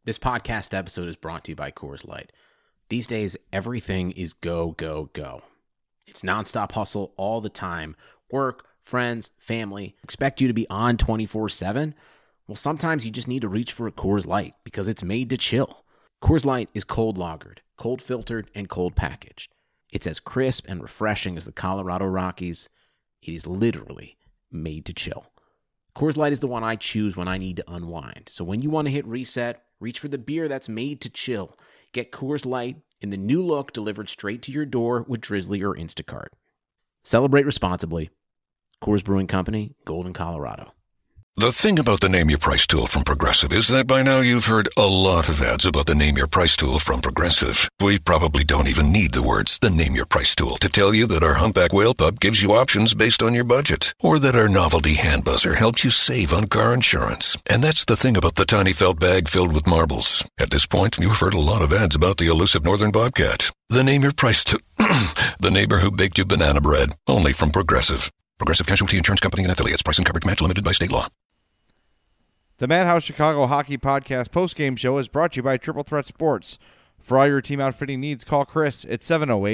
This podcast episode is brought to you by Coors Light. These days, everything is go, go, go. It's nonstop hustle all the time. Work, friends, family, expect you to be on 24/7. Well, sometimes you just need to reach for a Coors Light because it's made to chill. Coors Light is cold lagered, cold filtered, and cold packaged. It's as crisp and refreshing as the Colorado Rockies. It is literally made to chill. Coors Light is the one I choose when I need to unwind. So when you want to hit reset, reach for the beer that's made to chill. Get Coors Light in the new look delivered straight to your door with Drizzly or Instacart. Celebrate responsibly. Coors Brewing Company, Golden, Colorado. The thing about the Name Your Price tool from Progressive is that by now you've heard a lot of ads about the Name Your Price tool from Progressive. We probably don't even need the words, the Name Your Price tool, to tell you that our Humpback Whale Pup gives you options based on your budget, or that our novelty hand buzzer helps you save on car insurance. And that's the thing about the tiny felt bag filled with marbles. At this point, you've heard a lot of ads about the elusive northern bobcat. The Name Your Price tool, the neighbor who baked you banana bread, only from Progressive. Progressive Casualty Insurance Company and Affiliates. Price and coverage match limited by state law. The Madhouse Chicago Hockey Podcast postgame show is brought to you by Triple Threat Sports. For all your team outfitting needs, call Chris at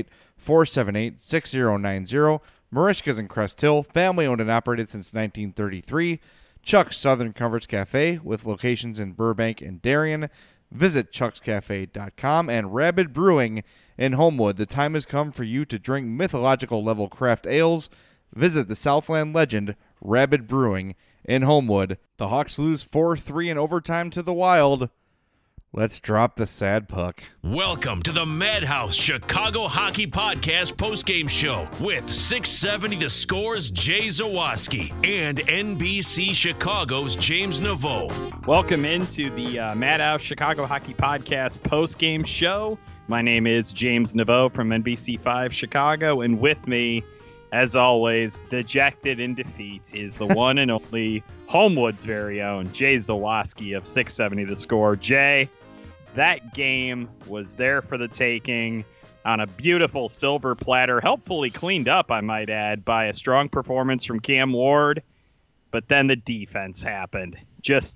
708-478-6090. Marishka's in Crest Hill, family owned and operated since 1933. Chuck's Southern Comforts Cafe with locations in Burbank and Darien. Visit chuckscafe.com. And Rabid Brewing in Homewood. The time has come for you to drink mythological level craft ales. Visit the Southland legend, Rabid Brewing in Homewood. The Hawks lose 4-3 in overtime to the Wild. Let's drop the sad puck. Welcome to the Madhouse Chicago Hockey Podcast postgame show with 670 The Score's Jay Zawaski and NBC Chicago's James Naveau. Welcome into the Madhouse Chicago Hockey Podcast postgame show. My name is James Naveau from NBC5 Chicago, and with me, as always, dejected in defeat, is the one and only Homewood's very own Jay Zawaski of 670 The Score. Jay, that game was there for the taking on a beautiful silver platter, helpfully cleaned up, I might add, by a strong performance from Cam Ward. But then the defense happened. This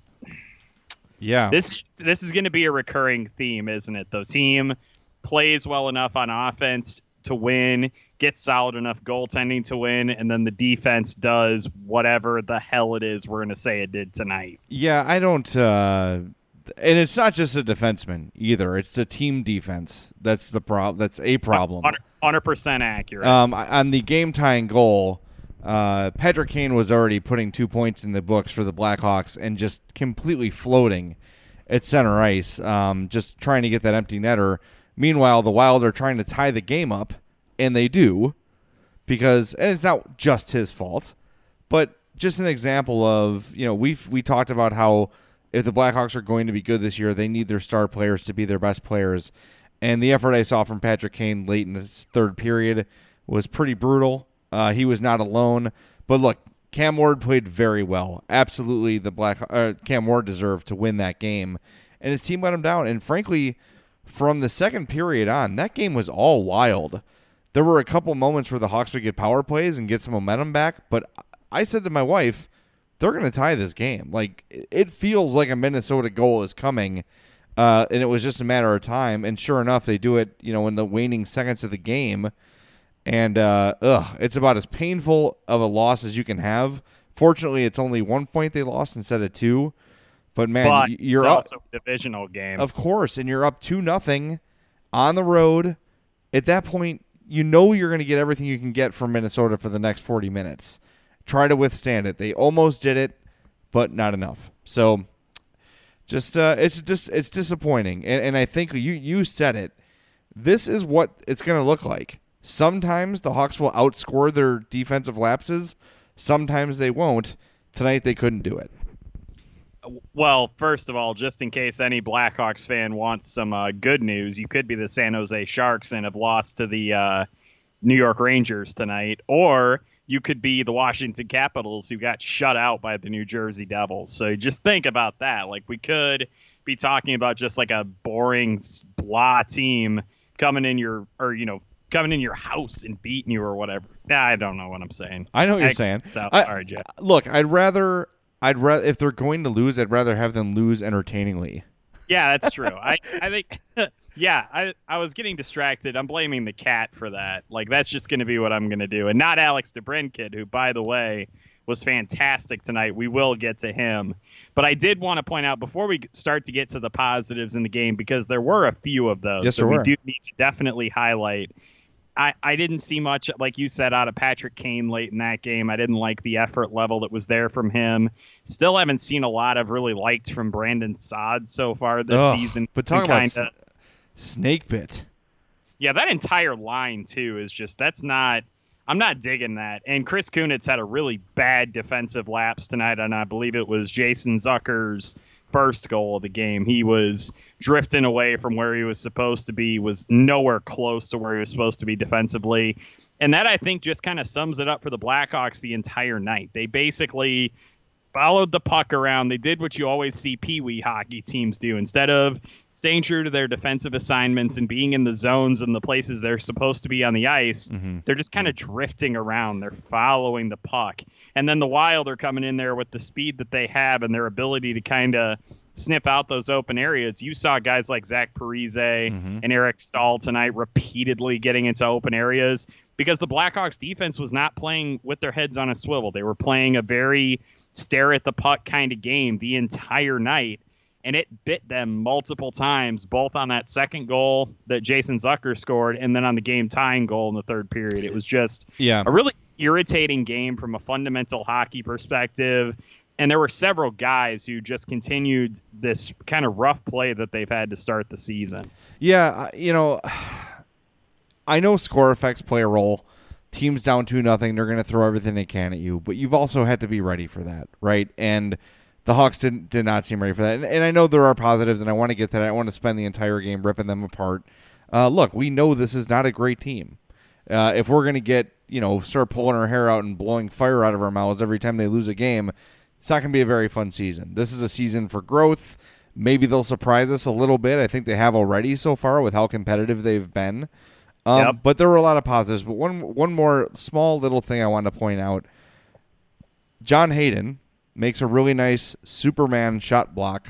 is going to be a recurring theme, isn't it? The team plays well enough on offense to win, gets solid enough goaltending to win, and then the defense does whatever the hell it is we're going to say it did tonight. Yeah, I don't and it's not just a defenseman either. It's a team defense. That's the problem. That's a problem. 100% accurate. On the game-tying goal, Patrick Kane was already putting 2 points in the books for the Blackhawks and just completely floating at center ice, just trying to get that empty netter. Meanwhile, the Wild are trying to tie the game up, and they do, and it's not just his fault, but just an example of, we talked about how if the Blackhawks are going to be good this year, they need their star players to be their best players, and the effort I saw from Patrick Kane late in this third period was pretty brutal. He was not alone, but look, Cam Ward played very well. Absolutely, Cam Ward deserved to win that game, and his team let him down, and frankly, from the second period on, that game was all Wild. There were a couple moments where the Hawks would get power plays and get some momentum back, but I said to my wife, they're going to tie this game. Like, it feels like a Minnesota goal is coming, and it was just a matter of time, and sure enough, they do it, in the waning seconds of the game, and it's about as painful of a loss as you can have. Fortunately, it's only 1 point they lost instead of 2. But, man, you're it's up. Also a divisional game. Of course, and you're up 2-0 on the road. At that point, you're going to get everything you can get from Minnesota for the next 40 minutes. Try to withstand it. They almost did it, but not enough. So, it's disappointing. And I think you said it. This is what it's going to look like. Sometimes the Hawks will outscore their defensive lapses. Sometimes they won't. Tonight they couldn't do it. Well, first of all, just in case any Blackhawks fan wants some good news, you could be the San Jose Sharks and have lost to the New York Rangers tonight, or you could be the Washington Capitals who got shut out by the New Jersey Devils. So just think about that. Like, we could be talking about just like a boring blah team coming in your house and beating you or whatever. I don't know what I'm saying. I know what you're saying. So, all right, Jeff. Look, I'd rather if they're going to lose, I'd rather have them lose entertainingly. Yeah, that's true. I think, yeah, I was getting distracted. I'm blaming the cat for that. Like, that's just going to be what I'm going to do. And not Alex DeBrincat, who, by the way, was fantastic tonight. We will get to him. But I did want to point out, before we start to get to the positives in the game, because there were a few of those. Yes, so there we were. do need to definitely highlight. I didn't see much, like you said, out of Patrick Kane late in that game. I didn't like the effort level that was there from him. Still haven't seen a lot of really liked from Brandon Saad so far this season. But talk about snake bit. Yeah, that entire line, too, is just, I'm not digging that. And Chris Kunitz had a really bad defensive lapse tonight, and I believe it was Jason Zucker's first goal of the game. He was drifting away from where he was supposed to be, was nowhere close to where he was supposed to be defensively. And that, I think, just kind of sums it up for the Blackhawks the entire night. They basically followed the puck around. They did what you always see Pee-wee hockey teams do. Instead of staying true to their defensive assignments and being in the zones and the places they're supposed to be on the ice, they're just kind of drifting around. They're following the puck. And then the Wild are coming in there with the speed that they have and their ability to kind of sniff out those open areas. You saw guys like Zach Parise and Eric Stahl tonight repeatedly getting into open areas because the Blackhawks defense was not playing with their heads on a swivel. They were playing a very stare at the puck kind of game the entire night, and it bit them multiple times, both on that second goal that Jason Zucker scored and then on the game-tying goal in the third period. It was just a really irritating game from a fundamental hockey perspective, and there were several guys who just continued this kind of rough play that they've had to start the season. Yeah, I know score effects play a role. Team's down 2-0, they're going to throw everything they can at you, but you've also had to be ready for that, right? And the Hawks did not seem ready for that. And I know there are positives, and I want to get to that. I want to spend the entire game ripping them apart. Look, we know this is not a great team. If we're going to start pulling our hair out and blowing fire out of our mouths every time they lose a game, it's not going to be a very fun season. This is a season for growth. Maybe they'll surprise us a little bit. I think they have already so far with how competitive they've been. But there were a lot of positives. But one more small little thing I want to point out. John Hayden makes a really nice Superman shot block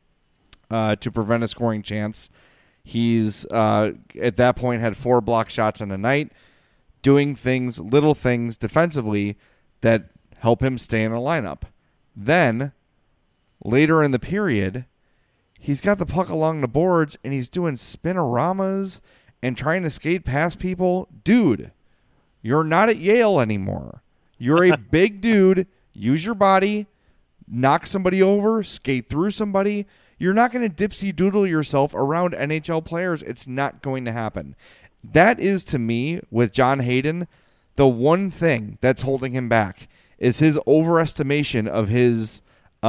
to prevent a scoring chance. He's, at that point, had 4 block shots in a night, doing little things defensively that help him stay in the lineup. Then, later in the period, he's got the puck along the boards, and he's doing spinoramas and trying to skate past people. Dude, you're not at Yale anymore. You're a big dude. Use your body. Knock somebody over. Skate through somebody. You're not going to dipsy doodle yourself around NHL players. It's not going to happen. That is, to me, with John Hayden, the one thing that's holding him back is his overestimation of his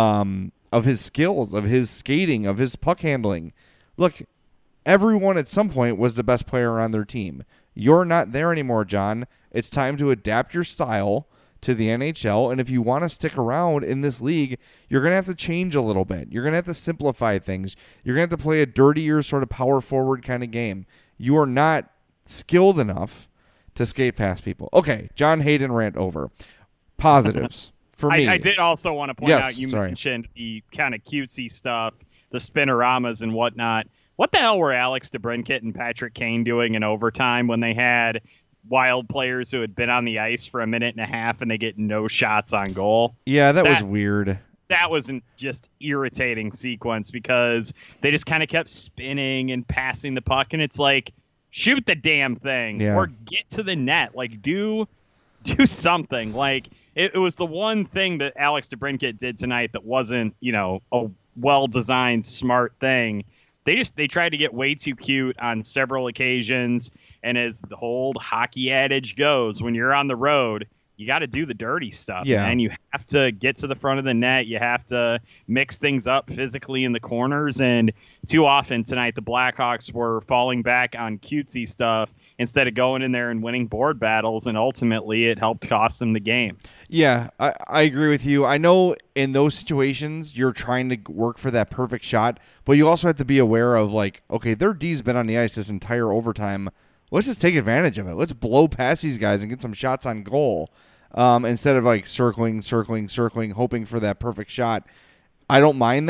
skills, of his skating, of his puck handling. Look, everyone at some point was the best player on their team. You're not there anymore, John. It's time to adapt your style to the NHL, and if you want to stick around in this league, you're going to have to change a little bit. You're going to have to simplify things. You're going to have to play a dirtier sort of power forward kind of game. You are not skilled enough to skate past people. Okay, John Hayden rant over. Positives for me. I did also want to point out, you mentioned the kind of cutesy stuff, the spinoramas and whatnot. What the hell were Alex DeBrincat and Patrick Kane doing in overtime when they had Wild players who had been on the ice for a minute and a half and they get no shots on goal? Yeah, that was weird. That was just irritating sequence because they just kind of kept spinning and passing the puck, and it's like, shoot the damn thing or get to the net. Like, do something. Like, it was the one thing that Alex DeBrincat did tonight that wasn't, a well-designed, smart thing. They tried to get way too cute on several occasions, and as the old hockey adage goes, when you're on the road, you got to do the dirty stuff, man. You have to get to the front of the net. You have to mix things up physically in the corners, and too often tonight the Blackhawks were falling back on cutesy stuff instead of going in there and winning board battles, and ultimately it helped cost them the game. Yeah, I agree with you. I know in those situations you're trying to work for that perfect shot, but you also have to be aware of, like, okay, their D's been on the ice this entire overtime. Let's just take advantage of it. Let's blow past these guys and get some shots on goal instead of, like, circling, hoping for that perfect shot. I don't mind that.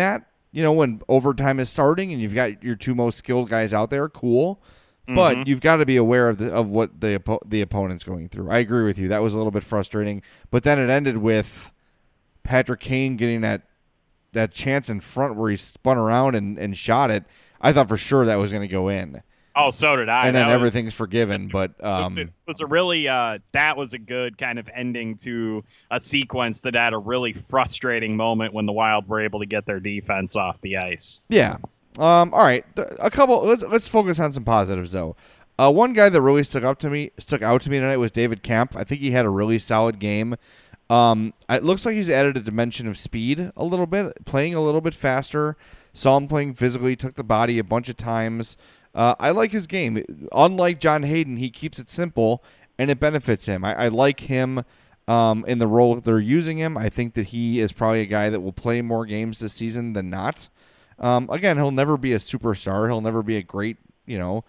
when overtime is starting and you've got your two most skilled guys out there, cool. But you've got to be aware of what the opponent's going through. I agree with you. That was a little bit frustrating. But then it ended with Patrick Kane getting that chance in front where he spun around and shot it. I thought for sure that was going to go in. Oh, so did I. And then everything's forgiven. But it was a really that was a good kind of ending to a sequence that had a really frustrating moment when the Wild were able to get their defense off the ice. Yeah. All right. Let's focus on some positives though. One guy that really stuck out to me tonight was David Kampf. I think he had a really solid game. It looks like he's added a dimension of speed a little bit, playing a little bit faster. Saw him playing physically, took the body a bunch of times. I like his game. Unlike John Hayden, he keeps it simple, and it benefits him. I like him in the role that they're using him. I think that he is probably a guy that will play more games this season than not. Again, he'll never be a superstar. He'll never be a great, not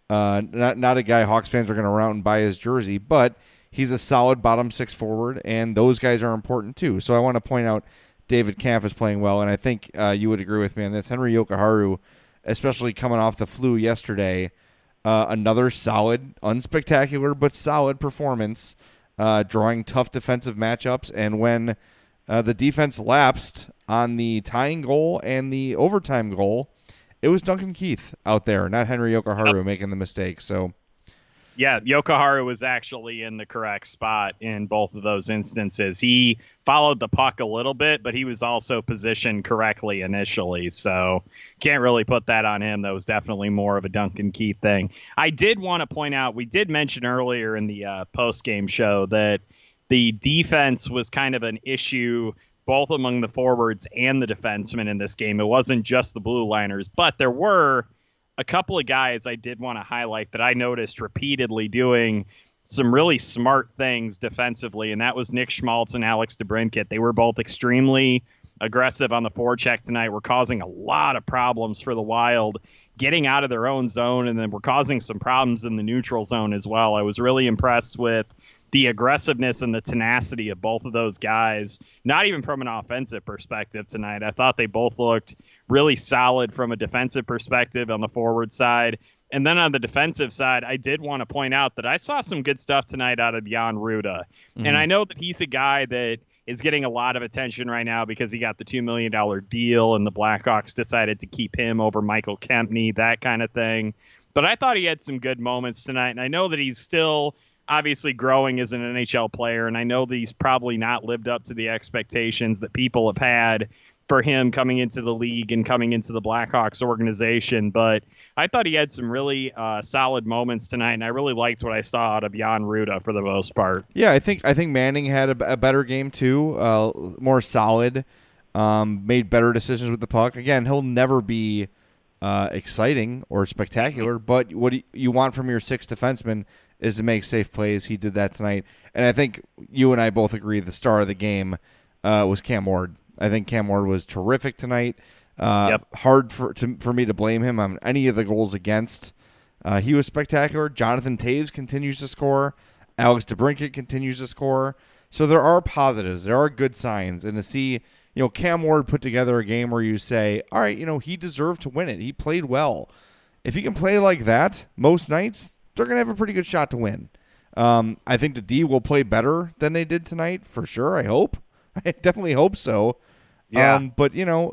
a guy Hawks fans are going to run out and buy his jersey, but he's a solid bottom six forward, and those guys are important too. So I want to point out David Kampf is playing well, and I think you would agree with me on this. Henry Jokiharju, especially coming off the flu yesterday, another solid, unspectacular, but solid performance, drawing tough defensive matchups, and when the defense lapsed on the tying goal and the overtime goal, it was Duncan Keith out there, not Henry Jokiharju making the mistake. So, yeah, Jokiharju was actually in the correct spot in both of those instances. He followed the puck a little bit, but he was also positioned correctly initially. So can't really put that on him. That was definitely more of a Duncan Keith thing. I did want to point out, we did mention earlier in the post-game show that the defense was kind of an issue both among the forwards and the defensemen in this game. It wasn't just the blue liners, but there were a couple of guys I did want to highlight that I noticed repeatedly doing some really smart things defensively, and that was Nick Schmaltz and Alex DeBrincat. They were both extremely aggressive on the forecheck tonight. Were causing a lot of problems for the Wild, getting out of their own zone, and then were causing some problems in the neutral zone as well. I was really impressed with the aggressiveness and the tenacity of both of those guys, not even from an offensive perspective tonight. I thought they both looked really solid from a defensive perspective on the forward side. And then on the defensive side, I did want to point out that I saw some good stuff tonight out of Jan Ruda. Mm-hmm. And I know that he's a guy that is getting a lot of attention right now because he got the $2 million deal and the Blackhawks decided to keep him over Michael Kempny, that kind of thing. But I thought he had some good moments tonight. And I know that he's still obviously growing as an NHL player, and I know that he's probably not lived up to the expectations that people have had for him coming into the league and coming into the Blackhawks organization. But I thought he had some really solid moments tonight, and I really liked what I saw out of Jan Ruda for the most part. Yeah, I think Manning had a better game too, more solid, made better decisions with the puck. Again, he'll never be exciting or spectacular, but what you want from your sixth defenseman is to make safe plays. He did that tonight. And I think you and I both agree the star of the game was Cam Ward. I think Cam Ward was terrific tonight. Hard for me to blame him on any of the goals against. He was spectacular. Jonathan Toews continues to score. Alex DeBrincat continues to score. So there are positives. There are good signs. And to see Cam Ward put together a game where you say, all right, he deserved to win it. He played well. If he can play like that most nights, they're going to have a pretty good shot to win. I think the D will play better than they did tonight, for sure, I hope. I definitely hope so. Yeah. But,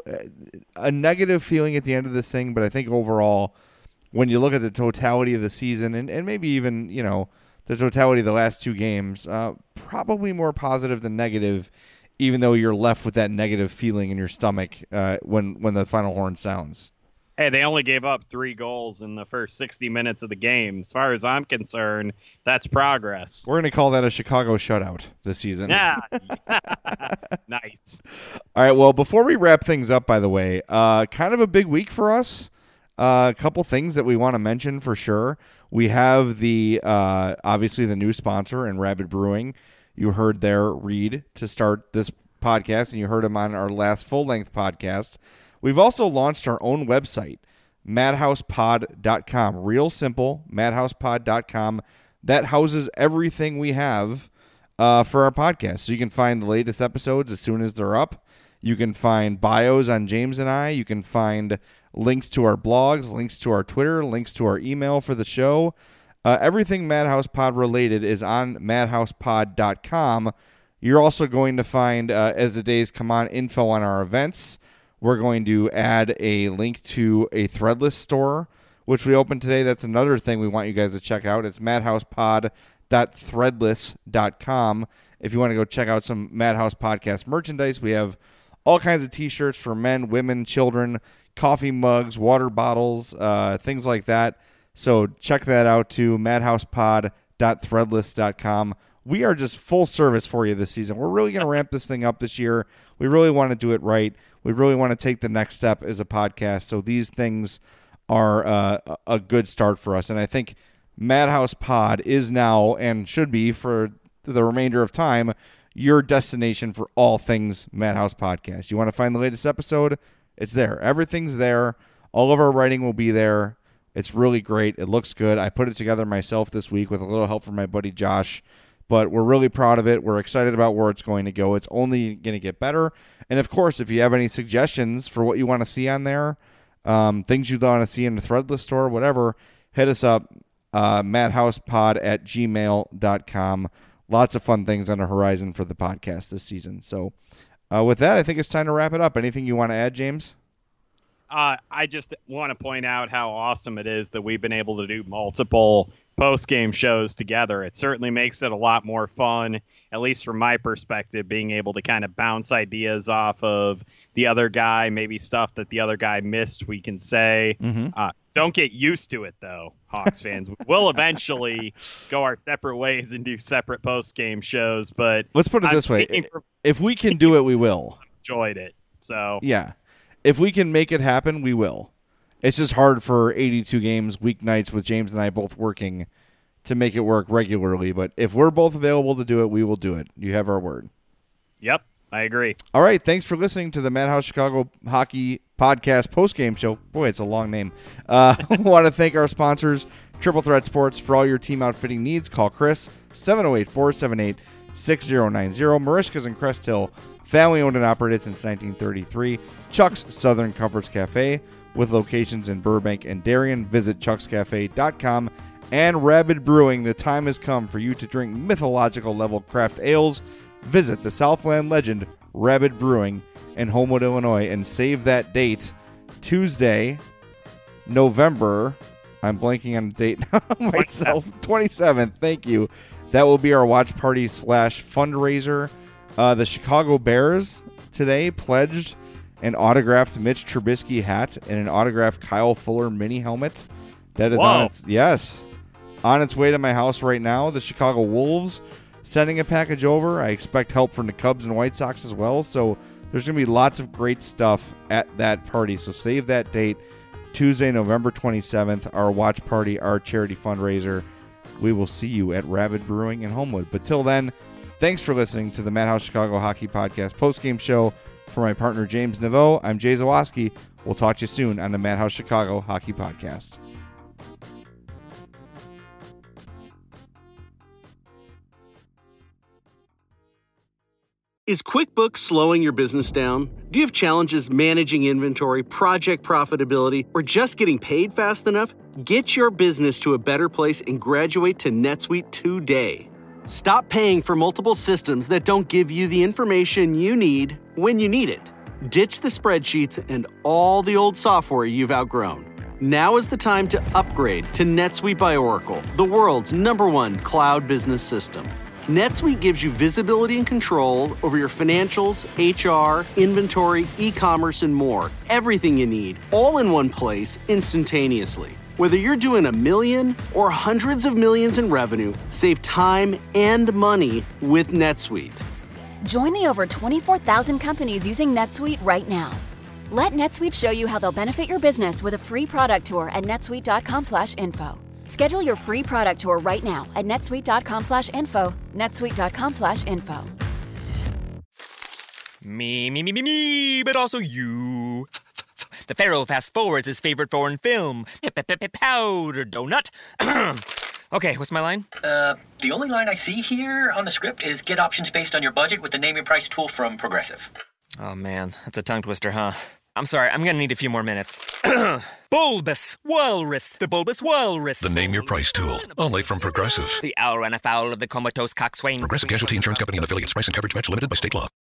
a negative feeling at the end of this thing, but I think overall, when you look at the totality of the season and maybe even, the totality of the last two games, probably more positive than negative, even though you're left with that negative feeling in your stomach when the final horn sounds. Hey, they only gave up 3 goals in the first 60 minutes of the game. As far as I'm concerned, that's progress. We're going to call that a Chicago shutout this season. Yeah. Nice. All right, well, before we wrap things up, by the way, kind of a big week for us. A couple things that we want to mention for sure. We have obviously the new sponsor in Rabid Brewing. You heard their read to start this podcast, and you heard him on our last full-length podcast. We've also launched our own website, madhousepod.com. Real simple, madhousepod.com. That houses everything we have for our podcast. So you can find the latest episodes as soon as they're up. You can find bios on James and I. You can find links to our blogs, links to our Twitter, links to our email for the show. Everything Madhouse Pod related is on madhousepod.com. You're also going to find, as the days come on, info on our events. We're going to add a link to a Threadless store, which we opened today. That's another thing we want you guys to check out. It's madhousepod.threadless.com. If you want to go check out some Madhouse Podcast merchandise, we have all kinds of T-shirts for men, women, children, coffee mugs, water bottles, things like that. So check that out too, madhousepod.threadless.com. We are just full service for you this season. We're really going to ramp this thing up this year. We really want to do it right. We really want to take the next step as a podcast. So these things are a good start for us. And I think Madhouse Pod is now, and should be for the remainder of time, your destination for all things Madhouse Podcast. You want to find the latest episode? It's there. Everything's there. All of our writing will be there. It's really great. It looks good. I put it together myself this week with a little help from my buddy Josh, but we're really proud of it. We're excited about where it's going to go. It's only going to get better. And, of course, if you have any suggestions for what you want to see on there, things you want to see in the Threadless store, whatever, hit us up, madhousepod@gmail.com. Lots of fun things on the horizon for the podcast this season. So with that, I think it's time to wrap it up. Anything you want to add, James? I just want to point out how awesome it is that we've been able to do multiple post-game shows together. It certainly makes it a lot more fun, at least from my perspective, being able to kind of bounce ideas off of the other guy, maybe stuff that the other guy missed, we can say. Mm-hmm. Don't get used to it, though, Hawks fans. We'll eventually go our separate ways and do separate post-game shows, but let's put it this way. If we can do it, we will. Enjoyed it. So yeah. If we can make it happen, we will. It's just hard for 82 games, weeknights, with James and I both working to make it work regularly. But if we're both available to do it, we will do it. You have our word. Yep, I agree. All right, thanks for listening to the Madhouse Chicago Hockey Podcast postgame show. Boy, it's a long name. I want to thank our sponsors, Triple Threat Sports. For all your team outfitting needs, call Chris, 708-478-6090. Marishka's in Crest Hill, family-owned and operated since 1933. Chuck's Southern Comforts Cafe, with locations in Burbank and Darien. Visit chuckscafe.com. And Rabid Brewing, the time has come for you to drink mythological level craft ales. Visit the Southland legend, Rabid Brewing, in Homewood, Illinois, and save that date, Tuesday, November, I'm blanking on the date myself, 27th, thank you. That will be our watch party / fundraiser. The Chicago Bears today pledged an autographed Mitch Trubisky hat and an autographed Kyle Fuller mini helmet. That is on its way to my house right now. The Chicago Wolves sending a package over. I expect help from the Cubs and White Sox as well. So there's going to be lots of great stuff at that party. So save that date, Tuesday, November 27th, our watch party, our charity fundraiser. We will see you at Rabid Brewing in Homewood. But till then, thanks for listening to the Madhouse Chicago Hockey Podcast postgame show. For my partner, James Naveau, I'm Jay Zawaski. We'll talk to you soon on the Madhouse Chicago Hockey Podcast. Is QuickBooks slowing your business down? Do you have challenges managing inventory, project profitability, or just getting paid fast enough? Get your business to a better place and graduate to NetSuite today. Stop paying for multiple systems that don't give you the information you need when you need it. Ditch the spreadsheets and all the old software you've outgrown. Now is the time to upgrade to NetSuite by Oracle, the world's #1 cloud business system. NetSuite gives you visibility and control over your financials, HR, inventory, e-commerce, and more. Everything you need, all in one place, instantaneously. Whether you're doing $1 million or hundreds of millions in revenue, save time and money with NetSuite. Join the over 24,000 companies using NetSuite right now. Let NetSuite show you how they'll benefit your business with a free product tour at netsuite.com/info. Schedule your free product tour right now at netsuite.com/info, netsuite.com/info. Me, but also you. The Pharaoh fast forwards his favorite foreign film, Powder Donut. Okay, what's my line? The only line I see here on the script is get options based on your budget with the Name Your Price tool from Progressive. Oh, man, that's a tongue twister, huh? I'm sorry, I'm gonna need a few more minutes. Bulbous Walrus, the Bulbous Walrus. The Name Your Price tool, only from Progressive. The owl ran afoul of the comatose coxswain. Progressive Casualty Insurance Company and affiliates. Price and coverage match limited by state law.